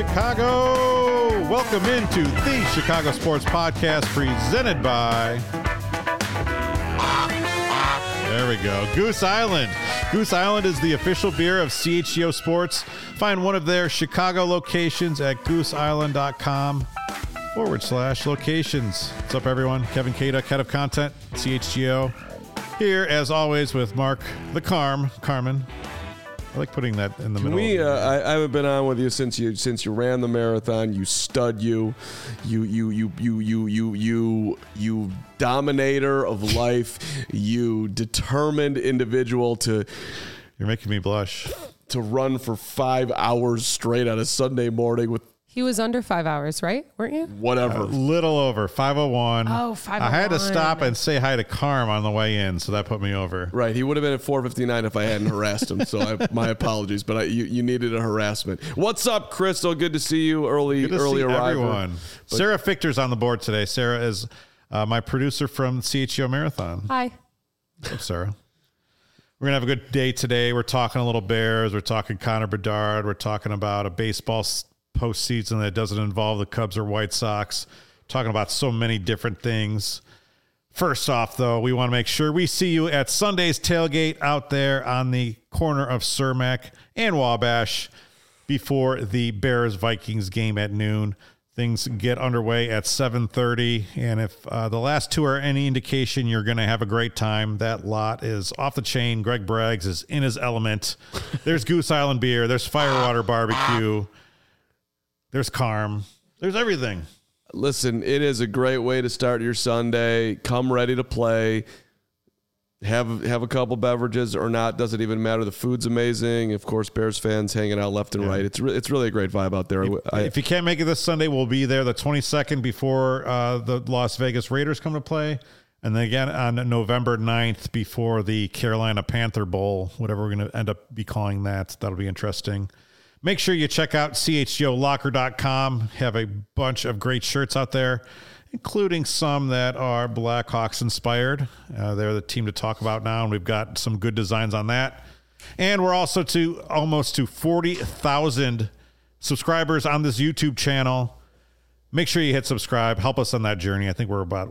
Chicago. Welcome into the Chicago Sports Podcast presented by... There we go. Goose Island. Goose Island is the official beer of CHGO Sports. Find one of their Chicago locations at gooseisland.com/locations. What's up, everyone? Kevin Kaduk, head of content, CHGO. Here, as always, with Mark the Carmen. I like putting that in the middle. I haven't been on with you since you ran the marathon. You stud. You dominator of life. You determined individual to. You're making me blush. To run for 5 hours straight on a Sunday morning with. He was under 5 hours, right? Weren't you? Whatever. A little over, 5:01. Oh, 5:01. I had to stop and say hi to Carm on the way in, so that put me over. Right. He would have been at 4:59 if I hadn't harassed him. So my apologies, but you needed a harassment. What's up, Crystal? Good to see you. Early arrival. Everyone. Sarah Fichter's on the board today. Sarah is my producer from CHGO Marathon. Hi. What's up, Sarah? We're going to have a good day today. We're talking a little Bears. We're talking Connor Bedard. We're talking about a baseball postseason that doesn't involve the Cubs or White Sox. Talking about so many different things. First off, though, we want to make sure we see you at Sunday's tailgate out there on the corner of Cermak and Wabash before the Bears-Vikings game at noon. Things get underway at 7:30, and if the last two are any indication, you're going to have a great time. That lot is off the chain. Greg Braggs is in his element. There's Goose Island beer. There's Firewater barbecue. There's Carm. There's everything. Listen, it is a great way to start your Sunday. Come ready to play. Have a couple beverages or not. Doesn't even matter. The food's amazing. Of course, Bears fans hanging out left and right. It's really a great vibe out there. If you can't make it this Sunday, we'll be there the 22nd before the Las Vegas Raiders come to play. And then again on November 9th before the Carolina Panther Bowl, whatever we're going to end up be calling that. That'll be interesting. Make sure you check out chgolocker.com. Have a bunch of great shirts out there, including some that are Blackhawks inspired. They're the team to talk about now, and we've got some good designs on that. And we're also almost to 40,000 subscribers on this YouTube channel. Make sure you hit subscribe. Help us on that journey. I think we're about,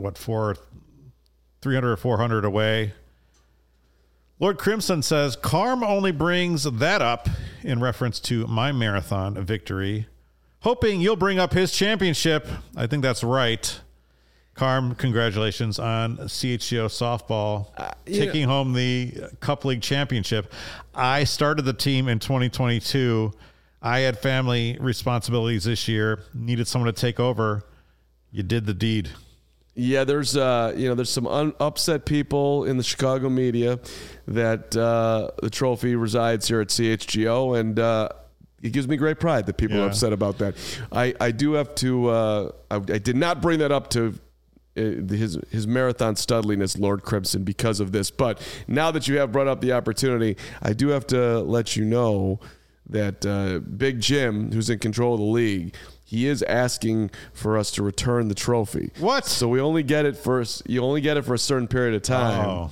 300 or 400 away. Lord Crimson says, Carm only brings that up in reference to my marathon victory, hoping you'll bring up his championship. I think that's right. Carm, congratulations on CHGO softball taking home the Cup League championship. I started the team in 2022. I had family responsibilities this year, needed someone to take over. You did the deed. Yeah, there's some upset people in the Chicago media that the trophy resides here at CHGO, and it gives me great pride that people are upset about that. I do have to. I did not bring that up to his marathon studliness, Lord Crimson, because of this. But now that you have brought up the opportunity, I do have to let you know that Big Jim, who's in control of the league, he is asking for us to return the trophy. What? So we only get it you only get it for a certain period of time. Oh.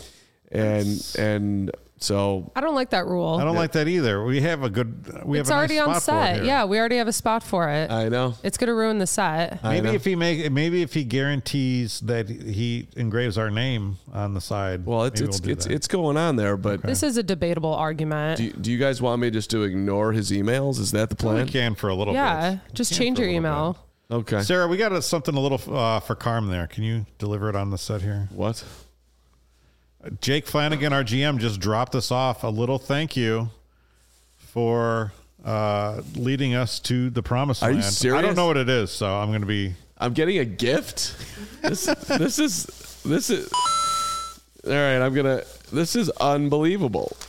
And so I don't like that rule. I don't like that either. We have a good. It's already on set. Yeah, we already have a spot for it. I know it's going to ruin the set. Maybe if he guarantees that he engraves our name on the side. Well, it's going on there, but this is a debatable argument. Do you guys want me just to ignore his emails? Is that the plan? We can for a little bit. Yeah, just change your email. Okay, Sarah, we got something a little for Carm there. Can you deliver it on the set here? What? Jake Flanagan, our GM, just dropped us off a little thank you for leading us to the promised land. Are you serious? I don't know what it is, so I'm going to be. I'm getting a gift. This is. All right, This is unbelievable.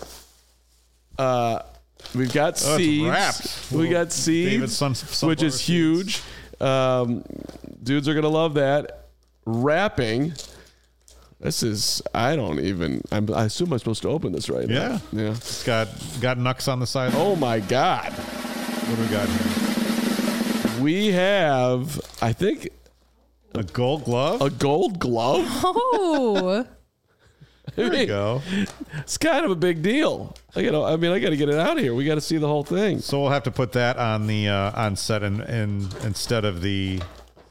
We've got seeds. We got seeds, which is huge. Dudes are gonna love that. Wrapping. This is, I assume I'm supposed to open this right now. Yeah. It's got Nux on the side. Oh my God. What do we got here? We have, I think, a gold glove? A gold glove? Oh. There we go. It's kind of a big deal. I got to get it out of here. We got to see the whole thing. So we'll have to put that on the on set and instead of the.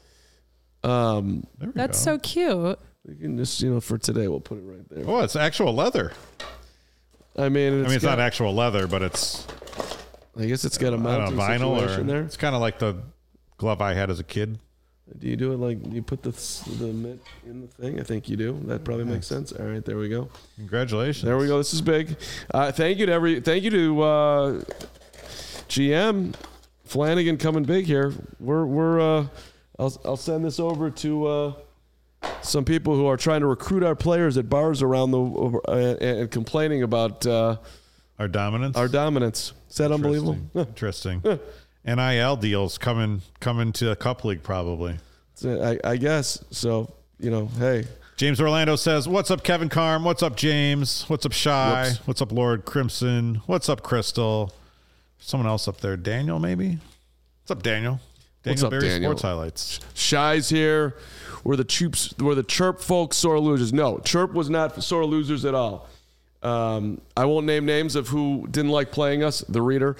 That's so cute. We can just, for today, we'll put it right there. Oh, it's actual leather. I mean, it's not actual leather, but it's. I guess it's got a mounting vinyl situation there. It's kind of like the glove I had as a kid. Do you do it like you put the mitt in the thing? I think you do. That probably makes sense. All right, there we go. Congratulations. There we go. This is big. Thank you to GM Flanagan coming big here. I'll send this over to some people who are trying to recruit our players at bars around and complaining about our dominance. Is that unbelievable? Interesting. NIL deals coming to a cup league probably. I guess so. Hey. James Orlando says, "What's up, Kevin Carm? What's up, James? What's up, Shy? Whoops. What's up, Lord Crimson? What's up, Crystal? Someone else up there, Daniel maybe. What's up, Daniel? What's up, Berry Daniel? Sports Highlights. Shy's here. We're the Chirp folks, sore losers. No, Chirp was not sore losers at all. I won't name names of who didn't like playing us, the reader.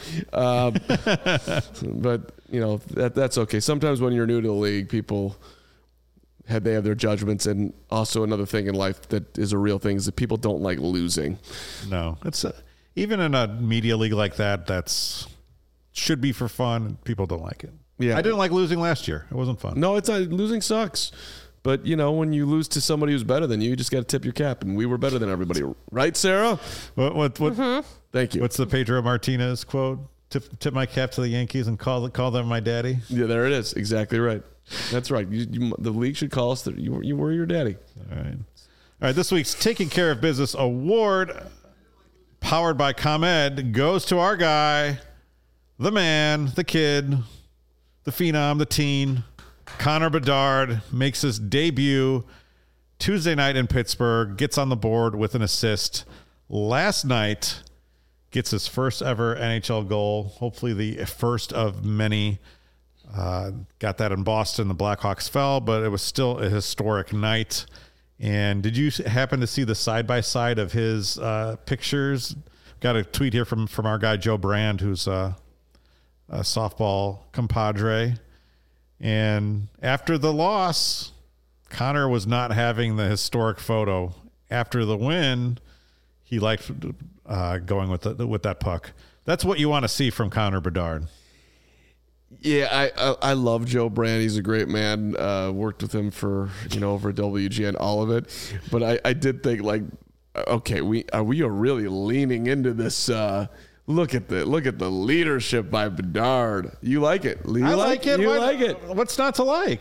But that's okay. Sometimes when you're new to the league, people have their judgments, and also another thing in life that is a real thing is that people don't like losing. No, it's even in a media league like that. Should be for fun. People don't like it. Yeah, I didn't like losing last year. It wasn't fun. No, it's not. Losing sucks. But, when you lose to somebody who's better than you just got to tip your cap. And we were better than everybody. Right, Sarah? What? Mm-hmm. Thank you. What's the Pedro Martinez quote? Tip my cap to the Yankees and call them my daddy. Yeah, there it is. Exactly right. That's right. The league should call us that you were your daddy. All right. This week's Taking Care of Business Award, powered by ComEd, goes to our guy, the man, the kid, the phenom, the teen. Connor Bedard makes his debut Tuesday night in Pittsburgh, gets on the board with an assist. Last night, gets his first ever NHL goal, hopefully the first of many. Got that in Boston. The Blackhawks fell, but it was still a historic night. And did you happen to see the side-by-side of his pictures? Got a tweet here from our guy Joe Brand, who's a softball compadre. And after the loss, Connor was not having the historic photo. After the win, he liked going with that puck. That's what you want to see from Connor Bedard. Yeah, I love Joe Brand. He's a great man. Worked with him for over WGN, all of it. But I did think okay, we are really leaning into this. Look at the leadership by Bedard. You like it? I like it. You like it? What's not to like?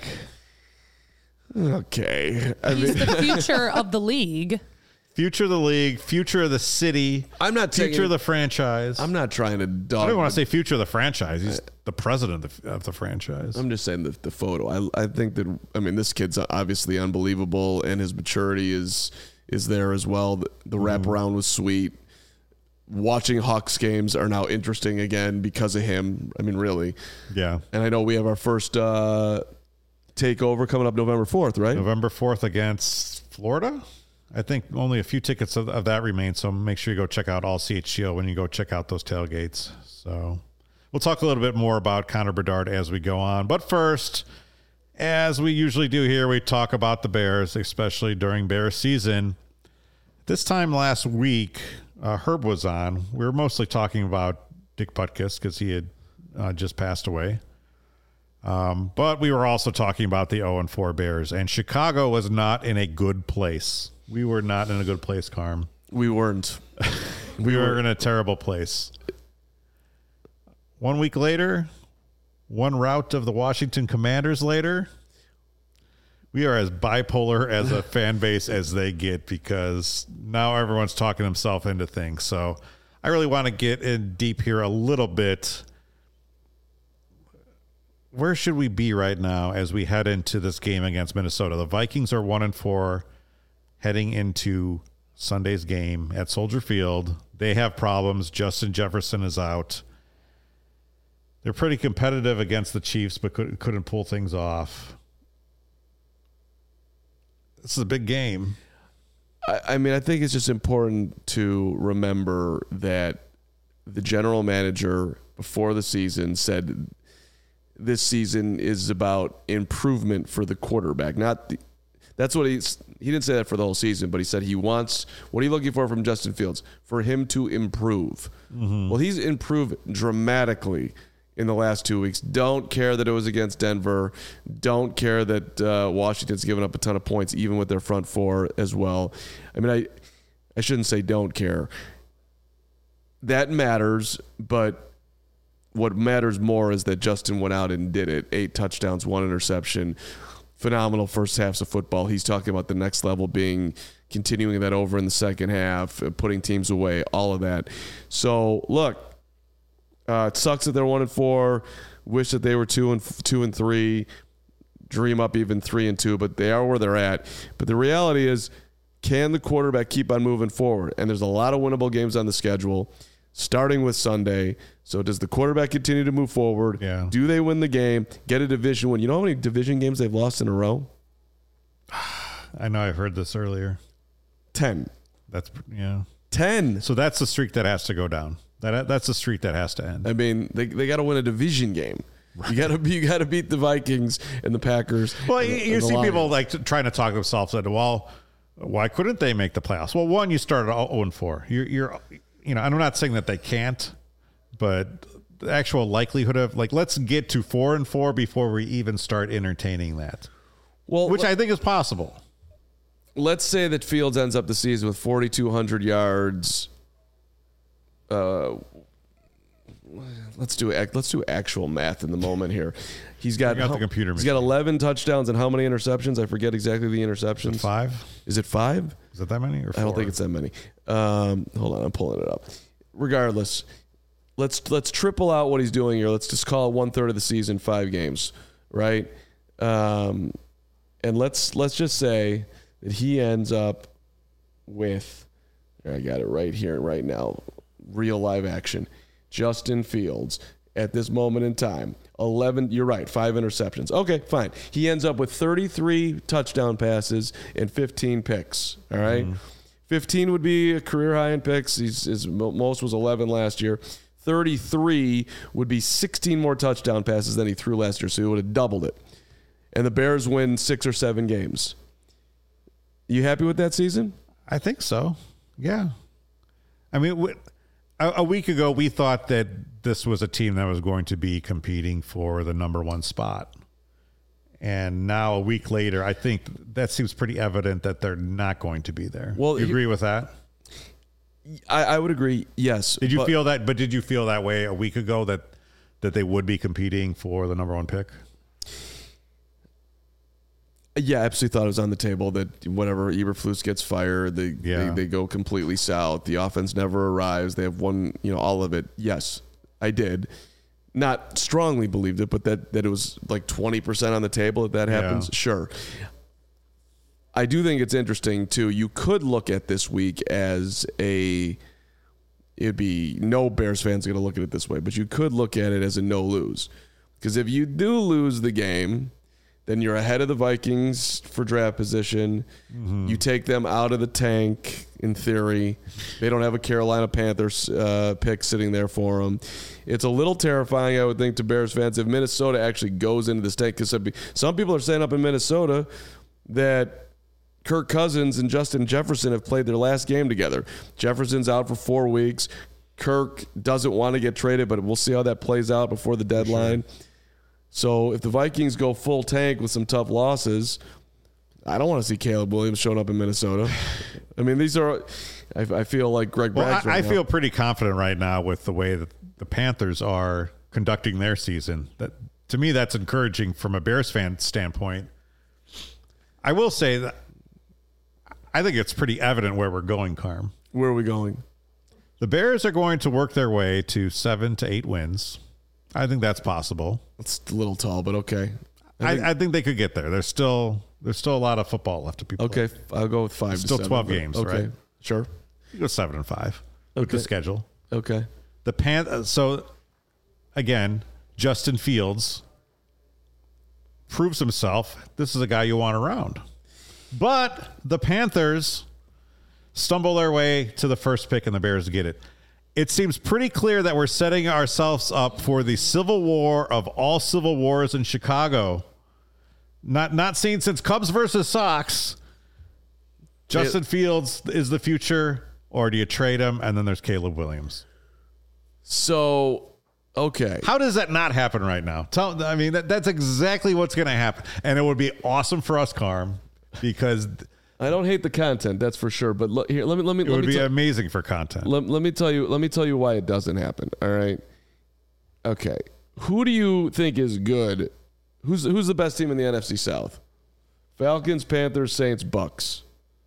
Okay, he's the future of the league. Future of the league, future of the city. I'm not future of the franchise. I'm not trying to dog. I don't want to say future of the franchise. He's the president of the franchise. I'm just saying the photo. I think that this kid's obviously unbelievable, and his maturity is there as well. The wraparound was sweet. Watching Hawks games are now interesting again because of him. Really. Yeah. And I know we have our first takeover coming up November 4th, right? November 4th against Florida. I think only a few tickets of that remain, so make sure you go check out All CHGO when you go check out those tailgates. So we'll talk a little bit more about Connor Bedard as we go on. But first, as we usually do here, we talk about the Bears, especially during Bears season. This time last week, Herb was on. We were mostly talking about Dick Butkus because he had just passed away. But we were also talking about the 0-4 Bears. And Chicago was not in a good place. We were not in a good place, Carm. We weren't. we were in a terrible place. 1 week later, one rout of the Washington Commanders later, we are as bipolar as a fan base as they get because now everyone's talking himself into things. So I really want to get in deep here a little bit. Where should we be right now as we head into this game against Minnesota? The Vikings are 1-4 heading into Sunday's game at Soldier Field. They have problems. Justin Jefferson is out. They're pretty competitive against the Chiefs, but couldn't pull things off. This is a big game. I mean, I think it's just important to remember that the general manager before the season said this season is about improvement for the quarterback. That's what he didn't say that for the whole season, but he said he wants, what are you looking for from Justin Fields? For him to improve. Mm-hmm. Well, he's improved dramatically in the last 2 weeks. Don't care that it was against Denver. Don't care that Washington's given up a ton of points, even with their front four as well. I mean, I shouldn't say don't care. That matters, but what matters more is that Justin went out and did it. 8 touchdowns, 1 interception. Phenomenal first halves of football. He's talking about the next level being continuing that over in the second half, putting teams away, all of that. So, look, it sucks that they're 1-4. Wish that they were 2-3. Dream up even 3-2, but they are where they're at. But the reality is, can the quarterback keep on moving forward? And there's a lot of winnable games on the schedule, starting with Sunday. So does the quarterback continue to move forward? Yeah. Do they win the game? Get a division win? You know how many division games they've lost in a row? I know I've heard this earlier. 10. That's, yeah. 10. So that's the streak that has to go down. That's the streak that has to end. I mean, they got to win a division game. Right. You got to beat the Vikings and the Packers. Well, you see people like trying to talk themselves into, well, why couldn't they make the playoffs? Well, one, you started 0-4. You're I'm not saying that they can't, but the actual likelihood of, like, let's get to 4-4 before we even start entertaining that. Well, which I think is possible. Let's say that Fields ends up the season with 4,200 yards. Let's do actual math in the moment here. He's got 11 touchdowns and how many interceptions? I forget exactly the interceptions. Is it 5? Is it 5? Is it that many or 4? I don't think it's that many. Hold on, I'm pulling it up. Regardless, let's triple out what he's doing here. Let's just call it 1/3 of the season, 5 games, right? And let's just say that he ends up with, I got it right here, right now, real live action. Justin Fields at this moment in time, 11, you're right, 5 interceptions. Okay, fine. He ends up with 33 touchdown passes and 15 picks, all right? 15 would be a career high in picks. His most was 11 last year. 33 would be 16 more touchdown passes than he threw last year, so he would have doubled it. And the Bears win 6 or 7 games. You happy with that season? I think so, yeah. I mean, a week ago, we thought that this was a team that was going to be competing for the number 1 spot. And now a week later, I think that seems pretty evident that they're not going to be there. Well, you agree with that? I would agree, yes. Did you feel that? But did you feel that way a week ago that they would be competing for the number 1 pick? Yeah, I absolutely thought it was on the table that whenever Eberflus gets fired, they go completely south. The offense never arrives. They have won, all of it. Yes, I did. Not strongly believed it, but that it was like 20% on the table if that happens. Yeah. Sure. I do think it's interesting, too. You could look at this week as it'd be, no Bears fans are going to look at it this way, but you could look at it as a no-lose. Because if you do lose the game, then you're ahead of the Vikings for draft position. Mm-hmm. You take them out of the tank, in theory. They don't have a Carolina Panthers pick sitting there for them. It's a little terrifying, I would think, to Bears fans if Minnesota actually goes into this tank. Because some people are saying up in Minnesota that Kirk Cousins and Justin Jefferson have played their last game together. Jefferson's out for 4 weeks. Kirk doesn't want to get traded, but we'll see how that plays out before the deadline. Sure. So if the Vikings go full tank with some tough losses, I don't want to see Caleb Williams showing up in Minnesota. I mean, these are – I feel like Greg Braggs I feel pretty confident right now with the way that the Panthers are conducting their season. That, to me, that's encouraging from a Bears fan standpoint. I will say that I think it's pretty evident where we're going, Carm. Where are we going? The Bears are going to work their way to 7 to 8 wins. I think that's possible. It's a little tall, but okay. I think they could get there. There's still a lot of football left to be played. Okay, I'll go with 5 to 7. Still 12 games, okay. right? Sure. You go 7 and 5 with the schedule. Okay. So, again, Justin Fields proves himself. This is a guy you want around. But the Panthers stumble their way to the first pick and the Bears get it. It seems pretty clear that we're setting ourselves up for the civil war of all civil wars in Chicago. Not seen since Cubs versus Sox. Justin Fields is the future, or do you trade him? And then there's Caleb Williams. So, okay. How does that not happen right now? That's exactly what's going to happen. And it would be awesome for us, Carm, because I don't hate the content, that's for sure. But look, here, let me. It would be amazing for content. Let me tell you why it doesn't happen. All right. Okay. Who do you think is good? Who's the best team in the NFC South? Falcons, Panthers, Saints, Bucks.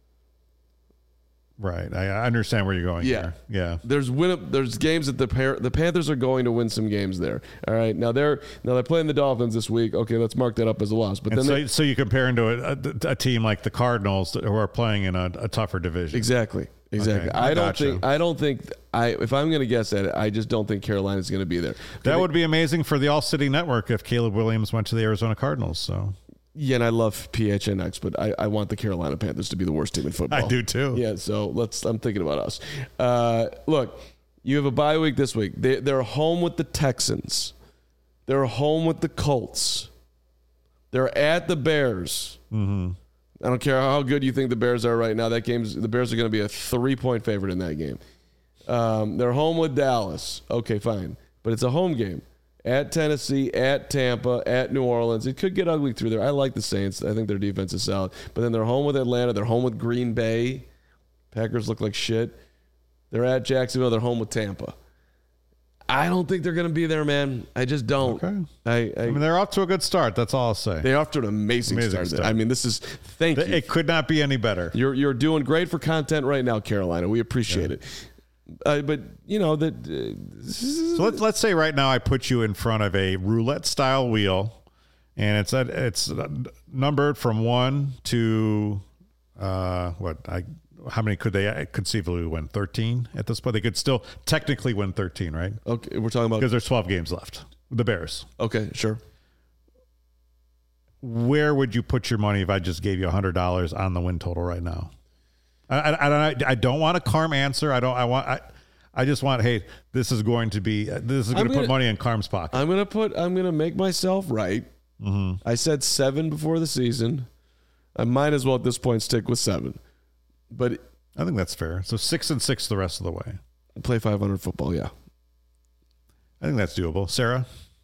Right. I understand where you're going here. Yeah. There's games that the Panthers are going to win some games there. All right. Now they're playing the Dolphins this week. Okay, let's mark that up as a loss. But then so you compare them to a team like the Cardinals who are playing in a tougher division. Exactly. Okay, I don't think if I'm going to guess at it, I just don't think Carolina's going to be there. That would be amazing for the All City Network if Caleb Williams went to the Arizona Cardinals. So. Yeah, and I love PHNX, but I want the Carolina Panthers to be the worst team in football. I do too. Yeah, so I'm thinking about us. Look, you have a bye week this week. They're home with the Texans. They're home with the Colts. They're at the Bears. Mm-hmm. I don't care how good you think the Bears are right now. The Bears are going to be a 3-point favorite in that game. They're home with Dallas. Okay, fine, but it's a home game. At Tennessee, at Tampa, at New Orleans. It could get ugly through there. I like the Saints. I think their defense is solid. But then they're home with Atlanta. They're home with Green Bay. Packers look like shit. They're at Jacksonville. They're home with Tampa. I don't think they're going to be there, man. I just don't. Okay. I mean, they're off to a good start. That's all I'll say. They're off to an amazing start. I mean, thank you. It could not be any better. You're doing great for content right now, Carolina. We appreciate it. But you know that. So let's say right now I put you in front of a roulette style wheel, and it's numbered from 1 to how many could they conceivably win? 13 at this point. They could still technically win 13, right? Okay, we're talking about because there's 12 games left. The Bears. Okay, sure. Where would you put your money if I just gave you $100 on the win total right now? I don't want a Carm answer. I just want, hey, this is going to put money in Carm's pocket. I'm going to make myself right. Mm-hmm. I said 7 before the season. I might as well at this point stick with 7. But I think that's fair. So 6-6 the rest of the way. Play 500 football, yeah. I think that's doable. Sarah?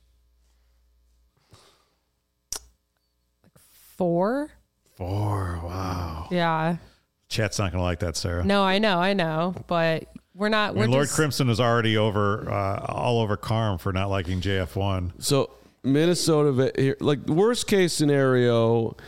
4. 4, wow. Yeah. Chat's not going to like that, Sarah. No, I know, but we're not. Lord Crimson is already all over Carm for not liking JF1. So Minnesota, here, like worst case scenario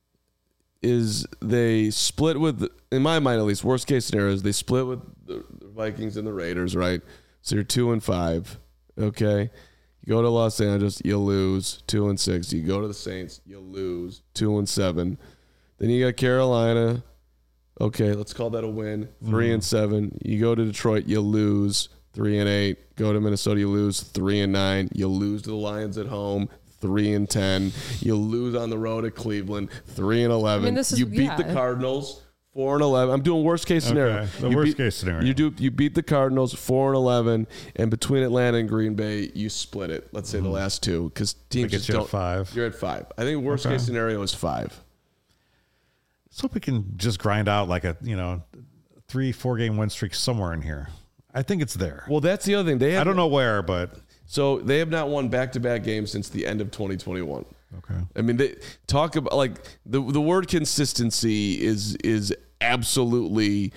is they split with, in my mind at least, worst case scenario is they split with the Vikings and the Raiders, right? So you're 2-5, okay? You go to Los Angeles, you lose 2-6. You go to the Saints, you lose 2-7. Then you got Carolina. Okay, let's call that a win. 3-7. You go to Detroit, you lose 3-8. Go to Minnesota, you lose 3-9. You lose to the Lions at home, 3-10. You lose on the road at Cleveland, 3-11. I mean, you beat the Cardinals, 4-11. I'm doing worst case scenario. Okay, the worst case scenario. You beat the Cardinals 4-11, and between Atlanta and Green Bay, you split it. Let's say the last two, because teams just don't. At 5. You're at 5. I think worst case scenario is 5. Let's hope we can just grind out like a 3-4 game win streak somewhere in here. I think it's there. Well, that's the other thing. I don't know where, but so they have not won back-to-back games since the end of 2021. Okay. I mean, they talk about like the word consistency is absolutely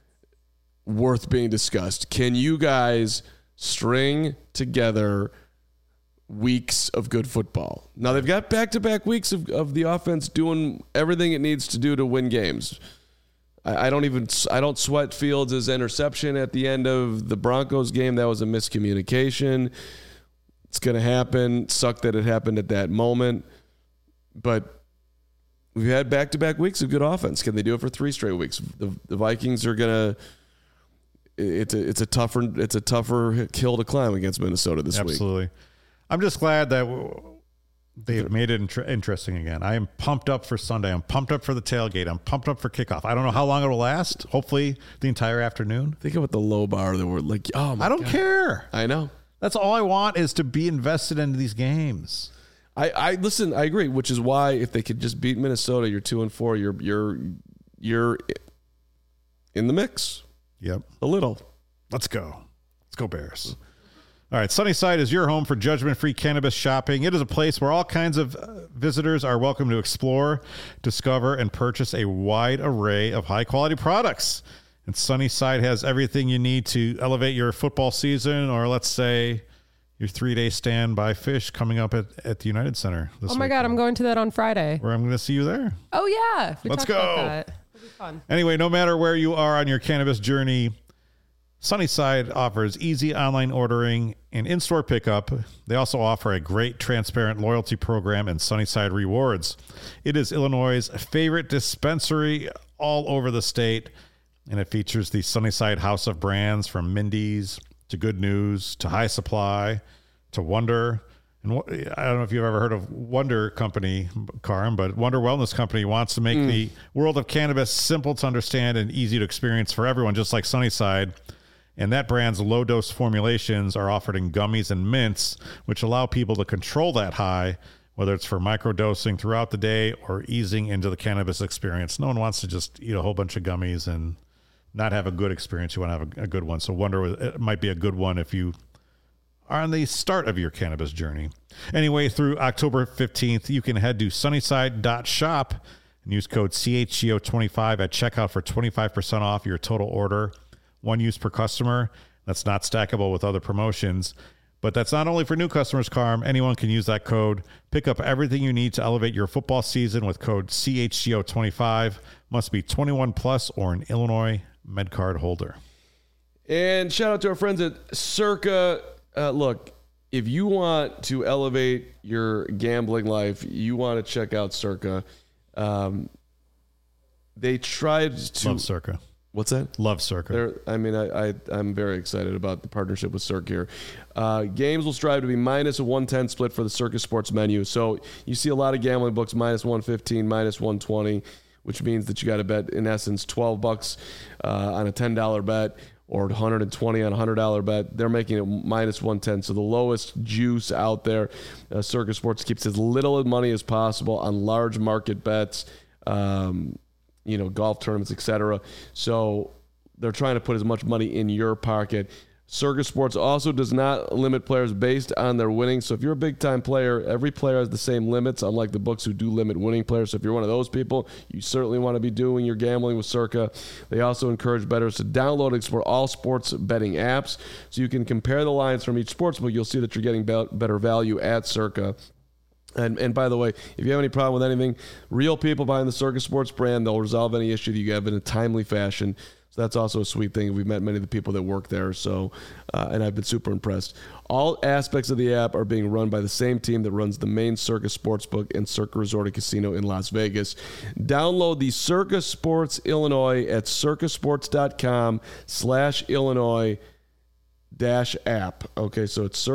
worth being discussed. Can you guys string together weeks of good football? Now they've got back-to-back weeks of the offense doing everything it needs to do to win games. I don't sweat Fields' interception at the end of the Broncos game. That was a miscommunication. It's going to happen. Sucked that it happened at that moment. But we've had back-to-back weeks of good offense. Can they do it for 3 straight weeks? The Vikings are going to. It's a tougher hill to climb against Minnesota this week. Absolutely. I'm just glad that They've made it interesting again. I am pumped up for Sunday. I'm pumped up for the tailgate. I'm pumped up for kickoff. I don't know how long it'll last. Hopefully the entire afternoon. Think about the low bar that we're like, oh my I don't God. care. I know. That's all I want is to be invested into these games. I listen, I agree, which is why if they could just beat Minnesota, you're 2-4, you're in the mix. Yep. A little. Let's go. Let's go Bears. All right, Sunnyside is your home for judgment-free cannabis shopping. It is a place where all kinds of visitors are welcome to explore, discover, and purchase a wide array of high-quality products. And Sunnyside has everything you need to elevate your football season, or let's say your 3-day stand by fish coming up at the United Center this Oh my God, I'm going to that on Friday. where I'm going to see you there. Oh yeah. Let's talked about go. that. It'll be fun. Anyway, no matter where you are on your cannabis journey, Sunnyside offers easy online ordering and in-store pickup. They also offer a great transparent loyalty program and Sunnyside Rewards. It is Illinois' favorite dispensary all over the state, and it features the Sunnyside house of brands from Mindy's to Good News to High Supply to Wonder. And I don't know if you've ever heard of Wonder Company, Karim, but Wonder Wellness Company wants to make the world of cannabis simple to understand and easy to experience for everyone, just like Sunnyside. And that brand's low-dose formulations are offered in gummies and mints, which allow people to control that high, whether it's for microdosing throughout the day or easing into the cannabis experience. No one wants to just eat a whole bunch of gummies and not have a good experience. You want to have a good one. So Wonder it might be a good one if you are on the start of your cannabis journey. Anyway, through October 15th, you can head to sunnyside.shop and use code CHGO25 at checkout for 25% off your total order. One use per customer. That's not stackable with other promotions. But that's not only for new customers, Carm. Anyone can use that code. Pick up everything you need to elevate your football season with code CHGO25. Must be 21 plus or an Illinois MedCard holder. And shout out to our friends at Circa. Look, if you want to elevate your gambling life, you want to check out Circa. They tried to... Love Circa. What's that? Love Circa. I'm very excited about the partnership with Circa here. Games will strive to be minus a 110 split for the Circa Sports menu. So you see a lot of gambling books minus 115, minus 120, which means that you got to bet, in essence, $12 on a $10 bet or 120 on a $100 bet. They're making it minus 110. So the lowest juice out there. Circa Sports keeps as little money as possible on large market bets. Golf tournaments, etc. So they're trying to put as much money in your pocket. Circa Sports also does not limit players based on their winnings. So if you're a big-time player, every player has the same limits, unlike the books who do limit winning players. So if you're one of those people, you certainly want to be doing your gambling with Circa. They also encourage bettors to download and explore all sports betting apps so you can compare the lines from each sportsbook. You'll see that you're getting better value at Circa. And by the way, if you have any problem with anything, real people behind the Circa Sports brand, they'll resolve any issue that you have in a timely fashion. So that's also a sweet thing. We've met many of the people that work there, so and I've been super impressed. All aspects of the app are being run by the same team that runs the main Circa Sportsbook and Circa Resort and Casino in Las Vegas. Download the Circa Sports Illinois at circasports.com/Illinois -app. Okay, so it's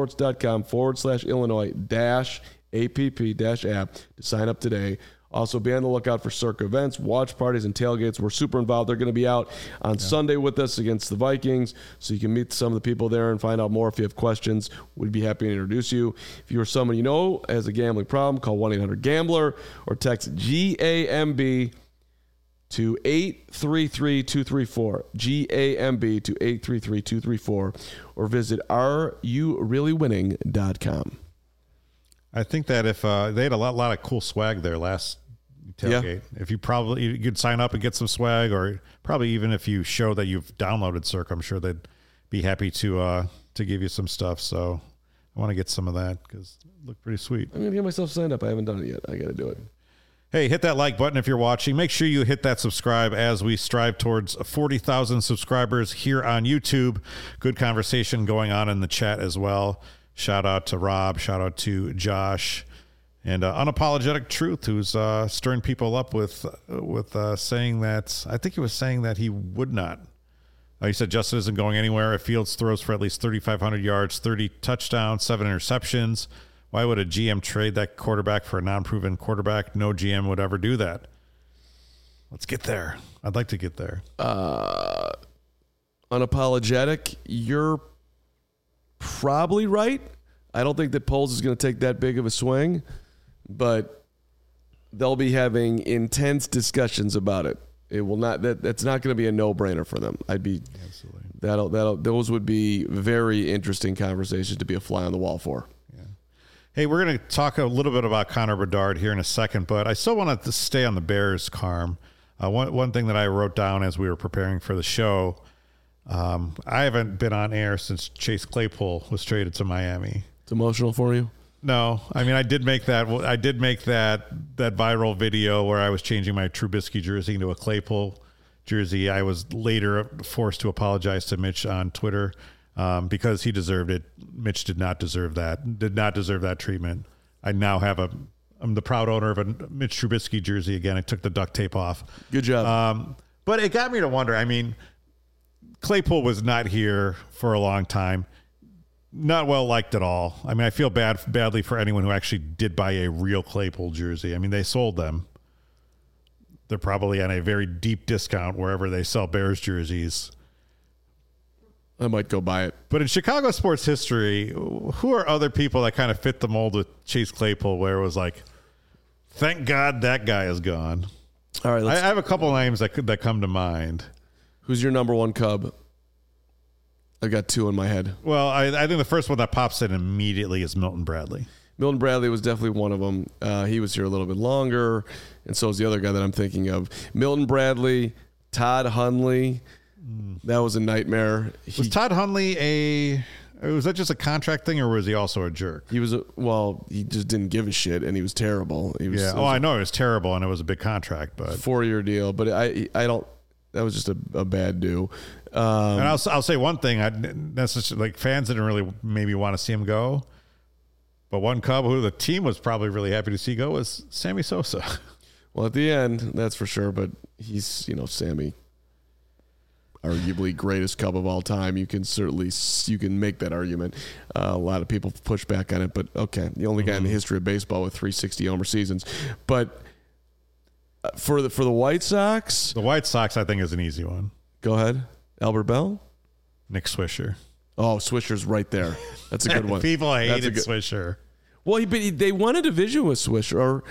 circasports.com/Illinois-app to sign up today. Also, be on the lookout for Circa events, watch parties, and tailgates. We're super involved. They're going to be out on Sunday with us against the Vikings, so you can meet some of the people there and find out more. If you have questions, we'd be happy to introduce you. If you or someone you know has a gambling problem, call 1-800-GAMBLER or text GAMB to 833-234, GAMB to 833-234, or visit areyoureallywinning.com. I think that if they had a lot of cool swag there last tailgate. If you could sign up and get some swag, or probably even if you show that you've downloaded Circa, I'm sure they'd be happy to give you some stuff. So I want to get some of that because it looked pretty sweet. I'm going to get myself signed up. I haven't done it yet. I got to do it. Hey, hit that like button if you're watching. Make sure you hit that subscribe as we strive towards 40,000 subscribers here on YouTube. Good conversation going on in the chat as well. Shout out to Rob. Shout out to Josh. And Unapologetic Truth, who's stirring people up with saying that, I think he was saying that he would not. He said Justin isn't going anywhere if Fields throws for at least 3,500 yards, 30 touchdowns, 7 interceptions. Why would a GM trade that quarterback for a non-proven quarterback? No GM would ever do that. Let's get there. I'd like to get there. Unapologetic, you're probably right. I don't think that Poles is going to take that big of a swing, but they'll be having intense discussions about it. It will not. That's not going to be a no-brainer for them. Absolutely. Those would be very interesting conversations to be a fly on the wall for. Yeah. Hey, we're going to talk a little bit about Connor Bedard here in a second, but I still wanted to stay on the Bears, Carm. One thing that I wrote down as we were preparing for the show, I haven't been on air since Chase Claypool was traded to Miami. It's emotional for you? No, I mean I did make that viral video where I was changing my Trubisky jersey into a Claypool jersey. I was later forced to apologize to Mitch on Twitter because he deserved it. Mitch did not deserve that. Did not deserve that treatment. I now have I'm the proud owner of a Mitch Trubisky jersey again. I took the duct tape off. Good job. But it got me to wonder. I mean, Claypool was not here for a long time. Not well liked at all. I mean, I feel badly for anyone who actually did buy a real Claypool jersey. I mean, they sold them. They're probably on a very deep discount wherever they sell Bears jerseys. I might go buy it. But in Chicago sports history, who are other people that kind of fit the mold with Chase Claypool where it was like, thank God that guy is gone? All right. I have a couple names that come to mind. Who's your number one Cub? I got two in my head. Well, I think the first one that pops in immediately is Milton Bradley. Milton Bradley was definitely one of them. He was here a little bit longer, and so is the other guy that I'm thinking of. Milton Bradley, Todd Hundley. That was a nightmare. Was Todd Hundley was that just a contract thing, or was he also a jerk? He was he just didn't give a shit, and he was terrible. I know it was terrible, and it was a big contract, but 4-year deal. But I don't. That was just a bad do. And I'll say one thing. Fans didn't really maybe want to see him go, but one Cub who the team was probably really happy to see go was Sammy Sosa. Well, at the end, that's for sure. But he's Sammy, arguably greatest Cub of all time. You can make that argument. A lot of people push back on it, but okay, the only guy in the history of baseball with 360 homer seasons. But for the White Sox, I think is an easy one. Go ahead, Albert Bell, Nick Swisher. Oh, Swisher's right there. That's a good one. People hated Swisher. Well, they won a division with Swisher.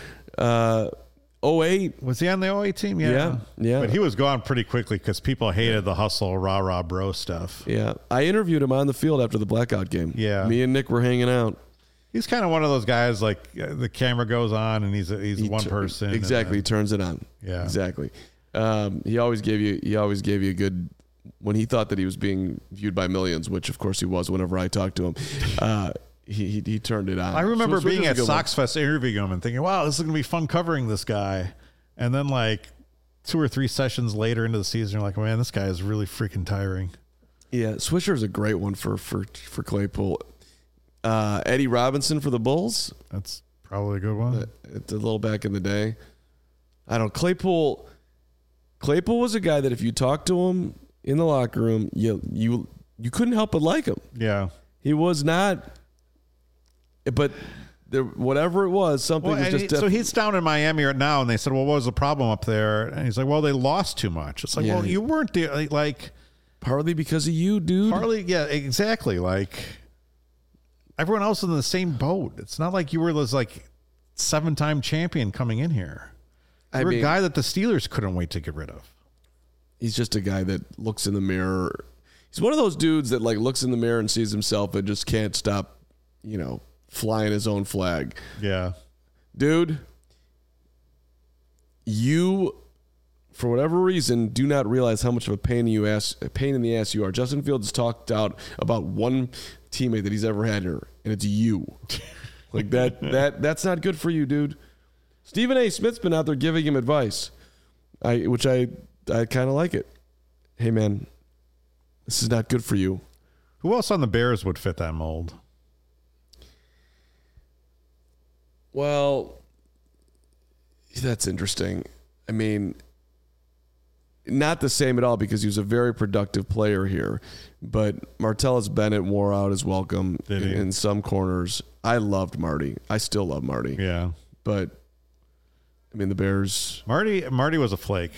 08. Was he on the 08 team? Yeah. But he was gone pretty quickly because people hated the hustle, rah, bro stuff. Yeah. I interviewed him on the field after the blackout game. Yeah. Me and Nick were hanging out. He's kind of one of those guys, like the camera goes on and he's one person. Exactly. He turns it on. Yeah. Exactly. He always gave you a good, when he thought that he was being viewed by millions, which of course he was whenever I talked to him. He turned it on. I remember being at Sox Fest interviewing him and thinking, wow, this is going to be fun covering this guy. And then like 2 or 3 sessions later into the season, you're like, man, this guy is really freaking tiring. Yeah, Swisher is a great one for Claypool. Eddie Robinson for the Bulls. That's probably a good one. It's a little back in the day. I don't. Claypool was a guy that if you talked to him in the locker room, you couldn't help but like him. Yeah, he was not. But whatever it was, something was just. So he's down in Miami right now, and they said, "Well, what was the problem up there?" And he's like, "Well, they lost too much." It's like, well, you weren't there, like partly because of you, dude. Partly, yeah, exactly. Like everyone else is in the same boat. It's not like you were this like 7-time champion coming in here. You're a guy that the Steelers couldn't wait to get rid of. He's just a guy that looks in the mirror. He's one of those dudes that like looks in the mirror and sees himself and just can't stop, flying his own flag. Yeah. Dude, you, for whatever reason, do not realize how much of a pain in the ass you are. Justin Fields talked out about one teammate that he's ever had here, and it's you. Like that's not good for you, dude. Stephen A. Smith's been out there giving him advice, which I kind of like it. Hey, man, this is not good for you. Who else on the Bears would fit that mold? Well, that's interesting. I mean, not the same at all because he was a very productive player here. But Martellus Bennett wore out his welcome in some corners. I loved Marty. I still love Marty. Yeah. But, I mean, the Bears. Marty was a flake.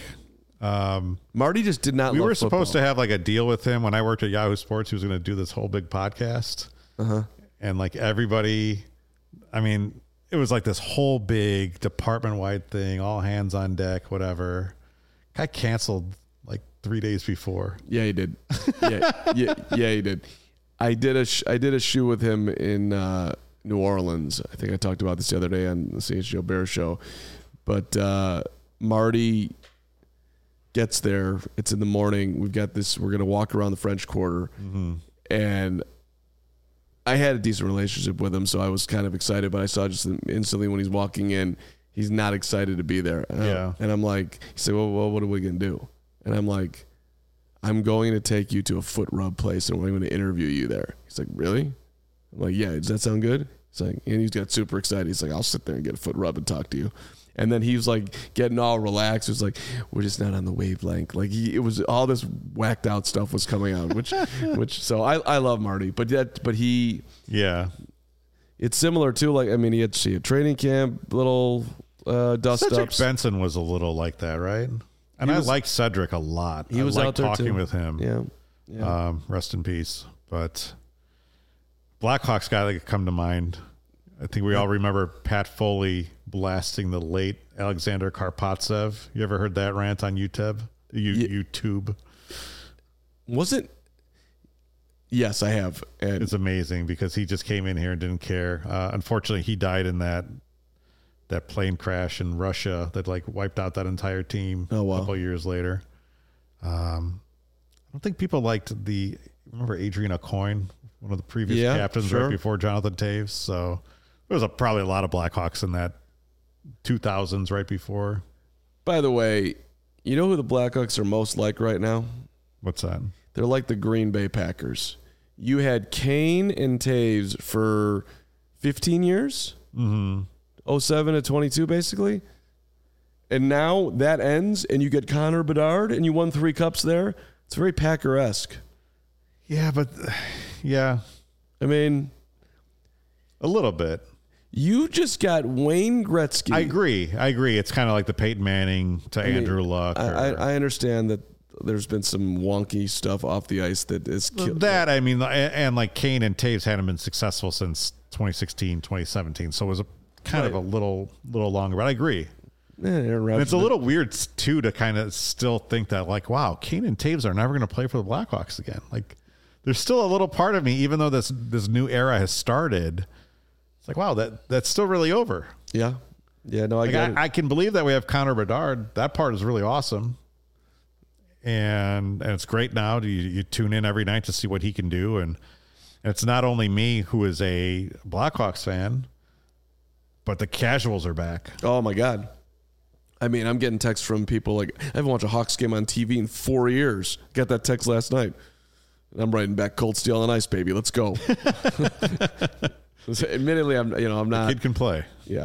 Marty just did not We love were football. supposed to have like a deal with him when I worked at Yahoo Sports. He was going to do this whole big podcast. And like everybody, I mean, it was like this whole big department-wide thing, all hands on deck, whatever. Guy canceled like 3 days before. Yeah, he did. Yeah, he did. I did a shoe with him in New Orleans. I think I talked about this the other day on the CHGO Bears show. But Marty gets there. It's in the morning. We're going to walk around the French Quarter. And I had a decent relationship with him, so I was kind of excited. But I saw just instantly when he's walking in, he's not excited to be there. And I'm like, he said, well, what are we going to do? And I'm like, I'm going to take you to a foot rub place and we're going to interview you there. He's like, really? I'm like, yeah, does that sound good? He's like, and he's got super excited. He's like, I'll sit there and get a foot rub and talk to you. And then he was like getting all relaxed. It was like, we're just not on the wavelength. Like it was all this whacked out stuff was coming out, which so I love Marty, but he, it's similar to like, I mean, he had training camp, little dust Cedric ups. Benson was a little like that, right? And I like Cedric a lot. He was out there talking too. with him. Yeah. Rest in peace. But Blackhawks guy that could come to mind. I think we all remember Pat Foley blasting the late Alexander Karpatsev. You ever heard that rant on YouTube? YouTube. Was it? Yes, I have. And it's amazing because he just came in here and didn't care. Unfortunately, he died in that plane crash in Russia that like wiped out that entire team a couple years later. I don't think people liked remember Adrian Aucoin, one of the previous captains right before Jonathan Taves. So there was probably a lot of Blackhawks in that 2000s right before. By the way, you know who the Blackhawks are most like right now? What's that? They're like the Green Bay Packers. You had Kane and Taves for 15 years. 07 to 22, basically. And now that ends, and you get Connor Bedard, and you won 3 cups there. It's very Packer-esque. Yeah, but yeah. I mean, a little bit. You just got Wayne Gretzky. I agree. It's kind of like the Peyton Manning to Andrew Luck. I understand that there's been some wonky stuff off the ice that is killed. That, I mean, and like Kane and Taves hadn't been successful since 2016, 2017. So it was a kind of a little longer, but I agree. And it's a little weird too to kind of still think that like, wow, Kane and Taves are never going to play for the Blackhawks again. Like there's still a little part of me, even though this new era has started, it's like, wow, that's still really over. Yeah. No, I can believe that we have Connor Bedard. That part is really awesome. And it's great now. You tune in every night to see what he can do. And it's not only me who is a Blackhawks fan, but the casuals are back. Oh, my God. I mean, I'm getting texts from people like, I haven't watched a Hawks game on TV in 4 years. Got that text last night. And I'm writing back, cold steel on ice, baby. Let's go. Admittedly, I'm not. The kid can play. Yeah.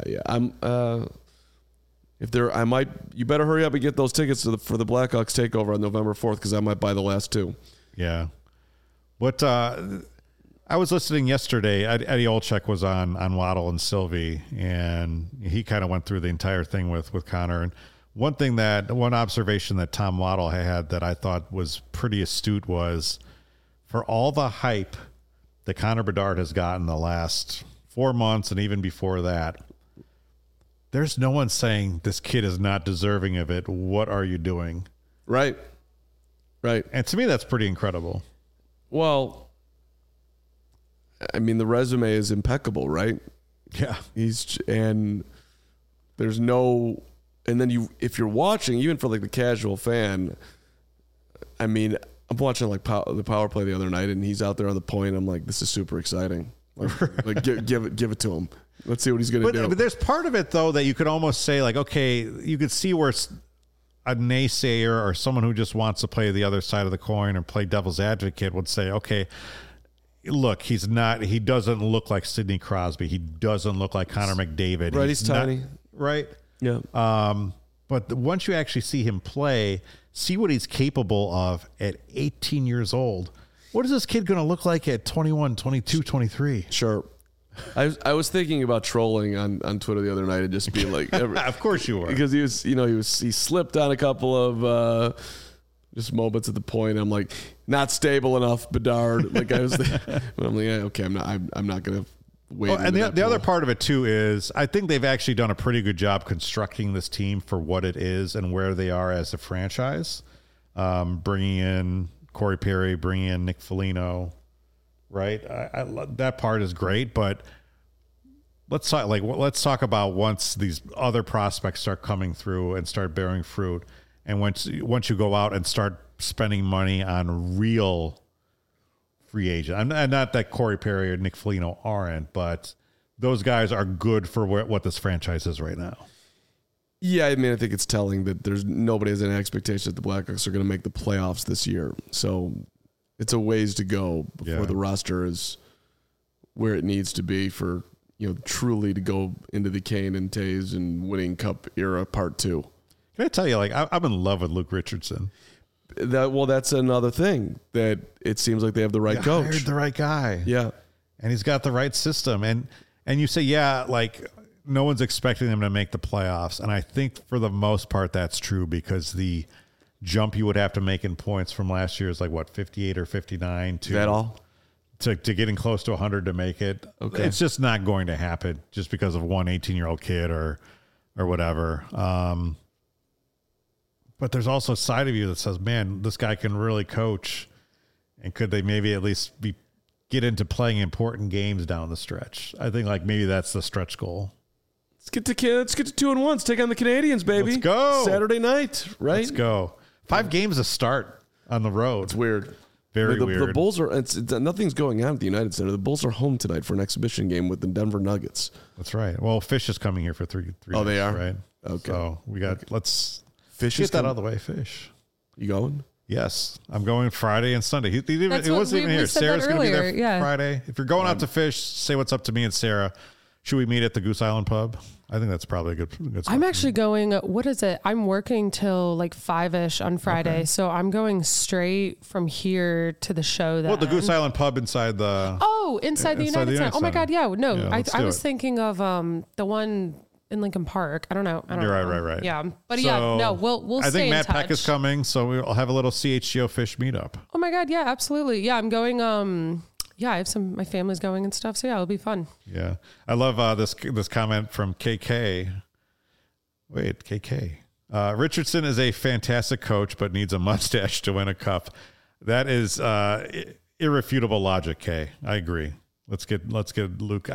You better hurry up and get those tickets for the Blackhawks takeover on November 4th because I might buy the last 2. Yeah. What I was listening yesterday. Eddie Olczyk was on Waddle and Sylvie, and he kind of went through the entire thing with Connor. And one observation that Tom Waddle had that I thought was pretty astute was, for all the hype that Connor Bedard has gotten the last 4 months and even before that, there's no one saying this kid is not deserving of it. What are you doing? Right. And to me, that's pretty incredible. Well, I mean, the resume is impeccable, right? Yeah. And then if you're watching, even for like the casual fan, I mean, I'm watching like the power play the other night, and he's out there on the point. I'm like, this is super exciting. Like give it to him. Let's see what he's going to do. But there's part of it though that you could almost say like, okay, you could see where a naysayer or someone who just wants to play the other side of the coin or play devil's advocate would say, okay, look, he doesn't look like Sidney Crosby. He doesn't look like Connor McDavid. Right, he's tiny. Right? Yeah. But once you actually see him play, see what he's capable of at 18 years old. What is this kid going to look like at 21, 22, 23? Sure. I was thinking about trolling on Twitter the other night and just being like, of course you were, because he slipped on a couple of just moments at the point. I'm like, not stable enough, Bedard. Like I was, but I'm like, yeah, okay, I'm not gonna wait. Oh, and the other part of it too is I think they've actually done a pretty good job constructing this team for what it is and where they are as a franchise. Bringing in Corey Perry, bringing in Nick Foligno. Right, that part is great, but let's talk about once these other prospects start coming through and start bearing fruit, and once you go out and start spending money on real free agent. And not that Corey Perry or Nick Foligno aren't, but those guys are good for what this franchise is right now. Yeah, I mean, I think it's telling that nobody has any expectation that the Blackhawks are going to make the playoffs this year. So it's a ways to go before the roster is where it needs to be for, truly to go into the Kane and Taves and winning cup era part 2. Can I tell you, I'm in love with Luke Richardson. That's another thing that it seems like they have the right coach. Hired the right guy. Yeah. And he's got the right system. And you say, no one's expecting them to make the playoffs. And I think for the most part, that's true because the jump you would have to make in points from last year is 58 or 59 to that all to getting close to 100 to make it. Okay. It's just not going to happen just because of one 18-year-old kid or whatever. But there's also a side of you that says, man, this guy can really coach. And could they maybe at least get into playing important games down the stretch? I think maybe that's the stretch goal. Let's get to 2-1. Let's take on the Canadians, baby. Let's go. Saturday night, right? Let's go. 5 games to start on the road. It's weird. Very weird. The Bulls are nothing's going on at the United Center. The Bulls are home tonight for an exhibition game with the Denver Nuggets. That's right. Well, Fish is coming here for three Oh, days, they are? right? Okay. So let's Fish get that out of the way, Fish. You going? Yes. I'm going Friday and Sunday. He That's wasn't even here. said Sarah's going to be there earlier, Friday. If you're going out to Fish, say what's up to me and Sarah. Should we meet at the Goose Island Pub? I think that's probably a good spot. I'm actually going, what is it? I'm working till 5-ish on Friday. Okay. So I'm going straight from here to the show. Well, the Goose Island Pub inside the... Oh, inside the United Center. Oh my God. Yeah. No, Yeah, I was thinking of the one in Lincoln Park. I don't know. You're know. right. Yeah. But So, we'll I stay think in Matt touch. Peck is coming, so we'll have a little CHGO Fish meetup. Oh my God. Yeah, absolutely. Yeah. I'm going, I have my family's going and stuff. So yeah, it'll be fun. Yeah. I love this comment from KK. Wait, KK. Richardson is a fantastic coach, but needs a mustache to win a cup. That is irrefutable logic, K. I agree. Let's get Luke.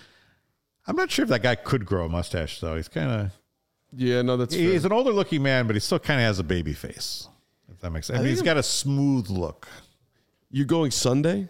I'm not sure if that guy could grow a mustache though. He's kind of he's an older looking man, but he still kind of has a baby face. If that makes sense. I mean, he's got a smooth look. You going Sunday?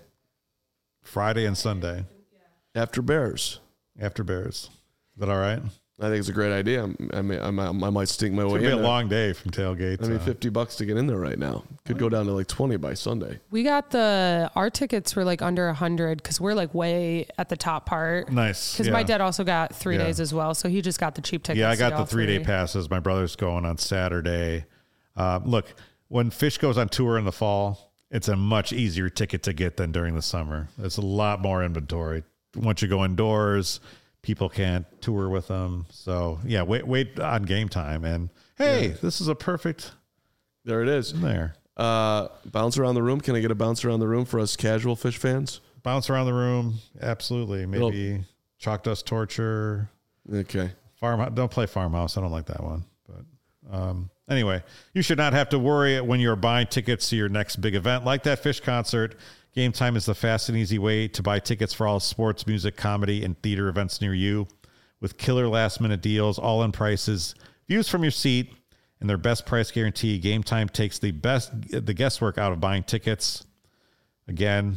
Friday and Sunday. After Bears. Is that all right? I think it's a great idea. I might stink my way in. It's going to be a long day from tailgate. $50 to get in there right now. Could go down to 20 by Sunday. We got our tickets were under 100 because we're way at the top part. Nice. Because my dad also got 3 days as well. So he just got the cheap tickets. Yeah, I got the 3-day passes. My brother's going on Saturday. Look, when Fish goes on tour in the fall, it's a much easier ticket to get than during the summer. There's a lot more inventory. Once you go indoors, people can't tour with them. So, yeah, wait on game time. And, hey, this is a perfect... There it is. There. Bounce around the room. Can I get a bounce around the room for us casual Fish fans? Bounce around the room. Absolutely. Maybe Chalk Dust Torture. Okay. Don't play Farmhouse. I don't like that one. But anyway, you should not have to worry when you're buying tickets to your next big event like that Fish concert. Game Time is the fast and easy way to buy tickets for all sports, music, comedy, and theater events near you. With killer last-minute deals, all-in prices, views from your seat, and their best price guarantee, Game Time takes the guesswork out of buying tickets. Again,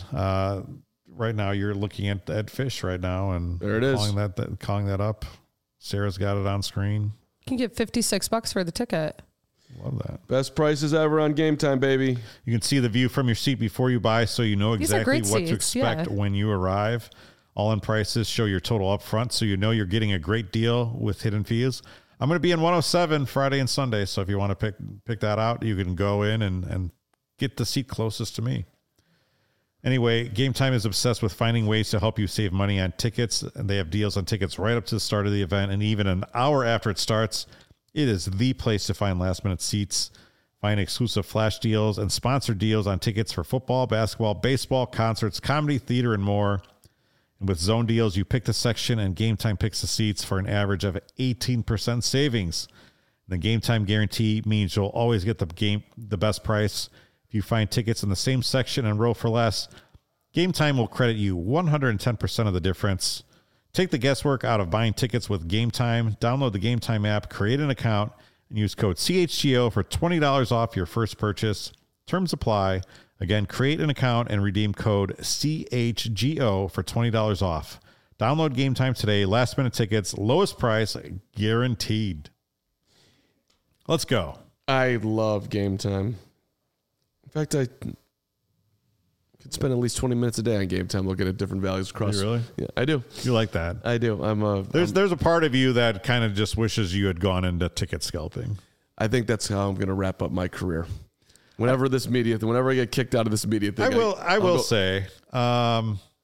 right now you're looking at Fish right now, and there it is. Calling that up. Sarah's got it on screen. You can get $56 for the ticket. Love that. Best prices ever on Game Time, baby. You can see the view from your seat before you buy, so you know exactly what to expect when you arrive. All-in prices show your total up front, so you know you're getting a great deal with hidden fees. I'm going to be in 107 Friday and Sunday. So if you want to pick that out, you can go in and get the seat closest to me. Anyway, Game Time is obsessed with finding ways to help you save money on tickets, and they have deals on tickets right up to the start of the event, and even an hour after it starts. It is the place to find last-minute seats, find exclusive flash deals, and sponsored deals on tickets for football, basketball, baseball, concerts, comedy, theater, and more. And with zone deals, you pick the section, and Game Time picks the seats for an average of 18% savings. The Game Time guarantee means you'll always get the best price. If you find tickets in the same section and row for less, Game Time will credit you 110% of the difference. Take the guesswork out of buying tickets with Game Time. Download the Game Time app, create an account, and use code CHGO for $20 off your first purchase. Terms apply. Again, create an account and redeem code CHGO for $20 off. Download Game Time today. Last minute tickets, lowest price guaranteed. Let's go. I love Game Time. In fact, I could spend at least 20 minutes a day on Game Time looking at different values across. You really? Yeah, I do. You like that? I do. There's a part of you that kind of just wishes you had gone into ticket scalping. I think that's how I'm going to wrap up my career. Whenever I get kicked out of this media thing, I will say, I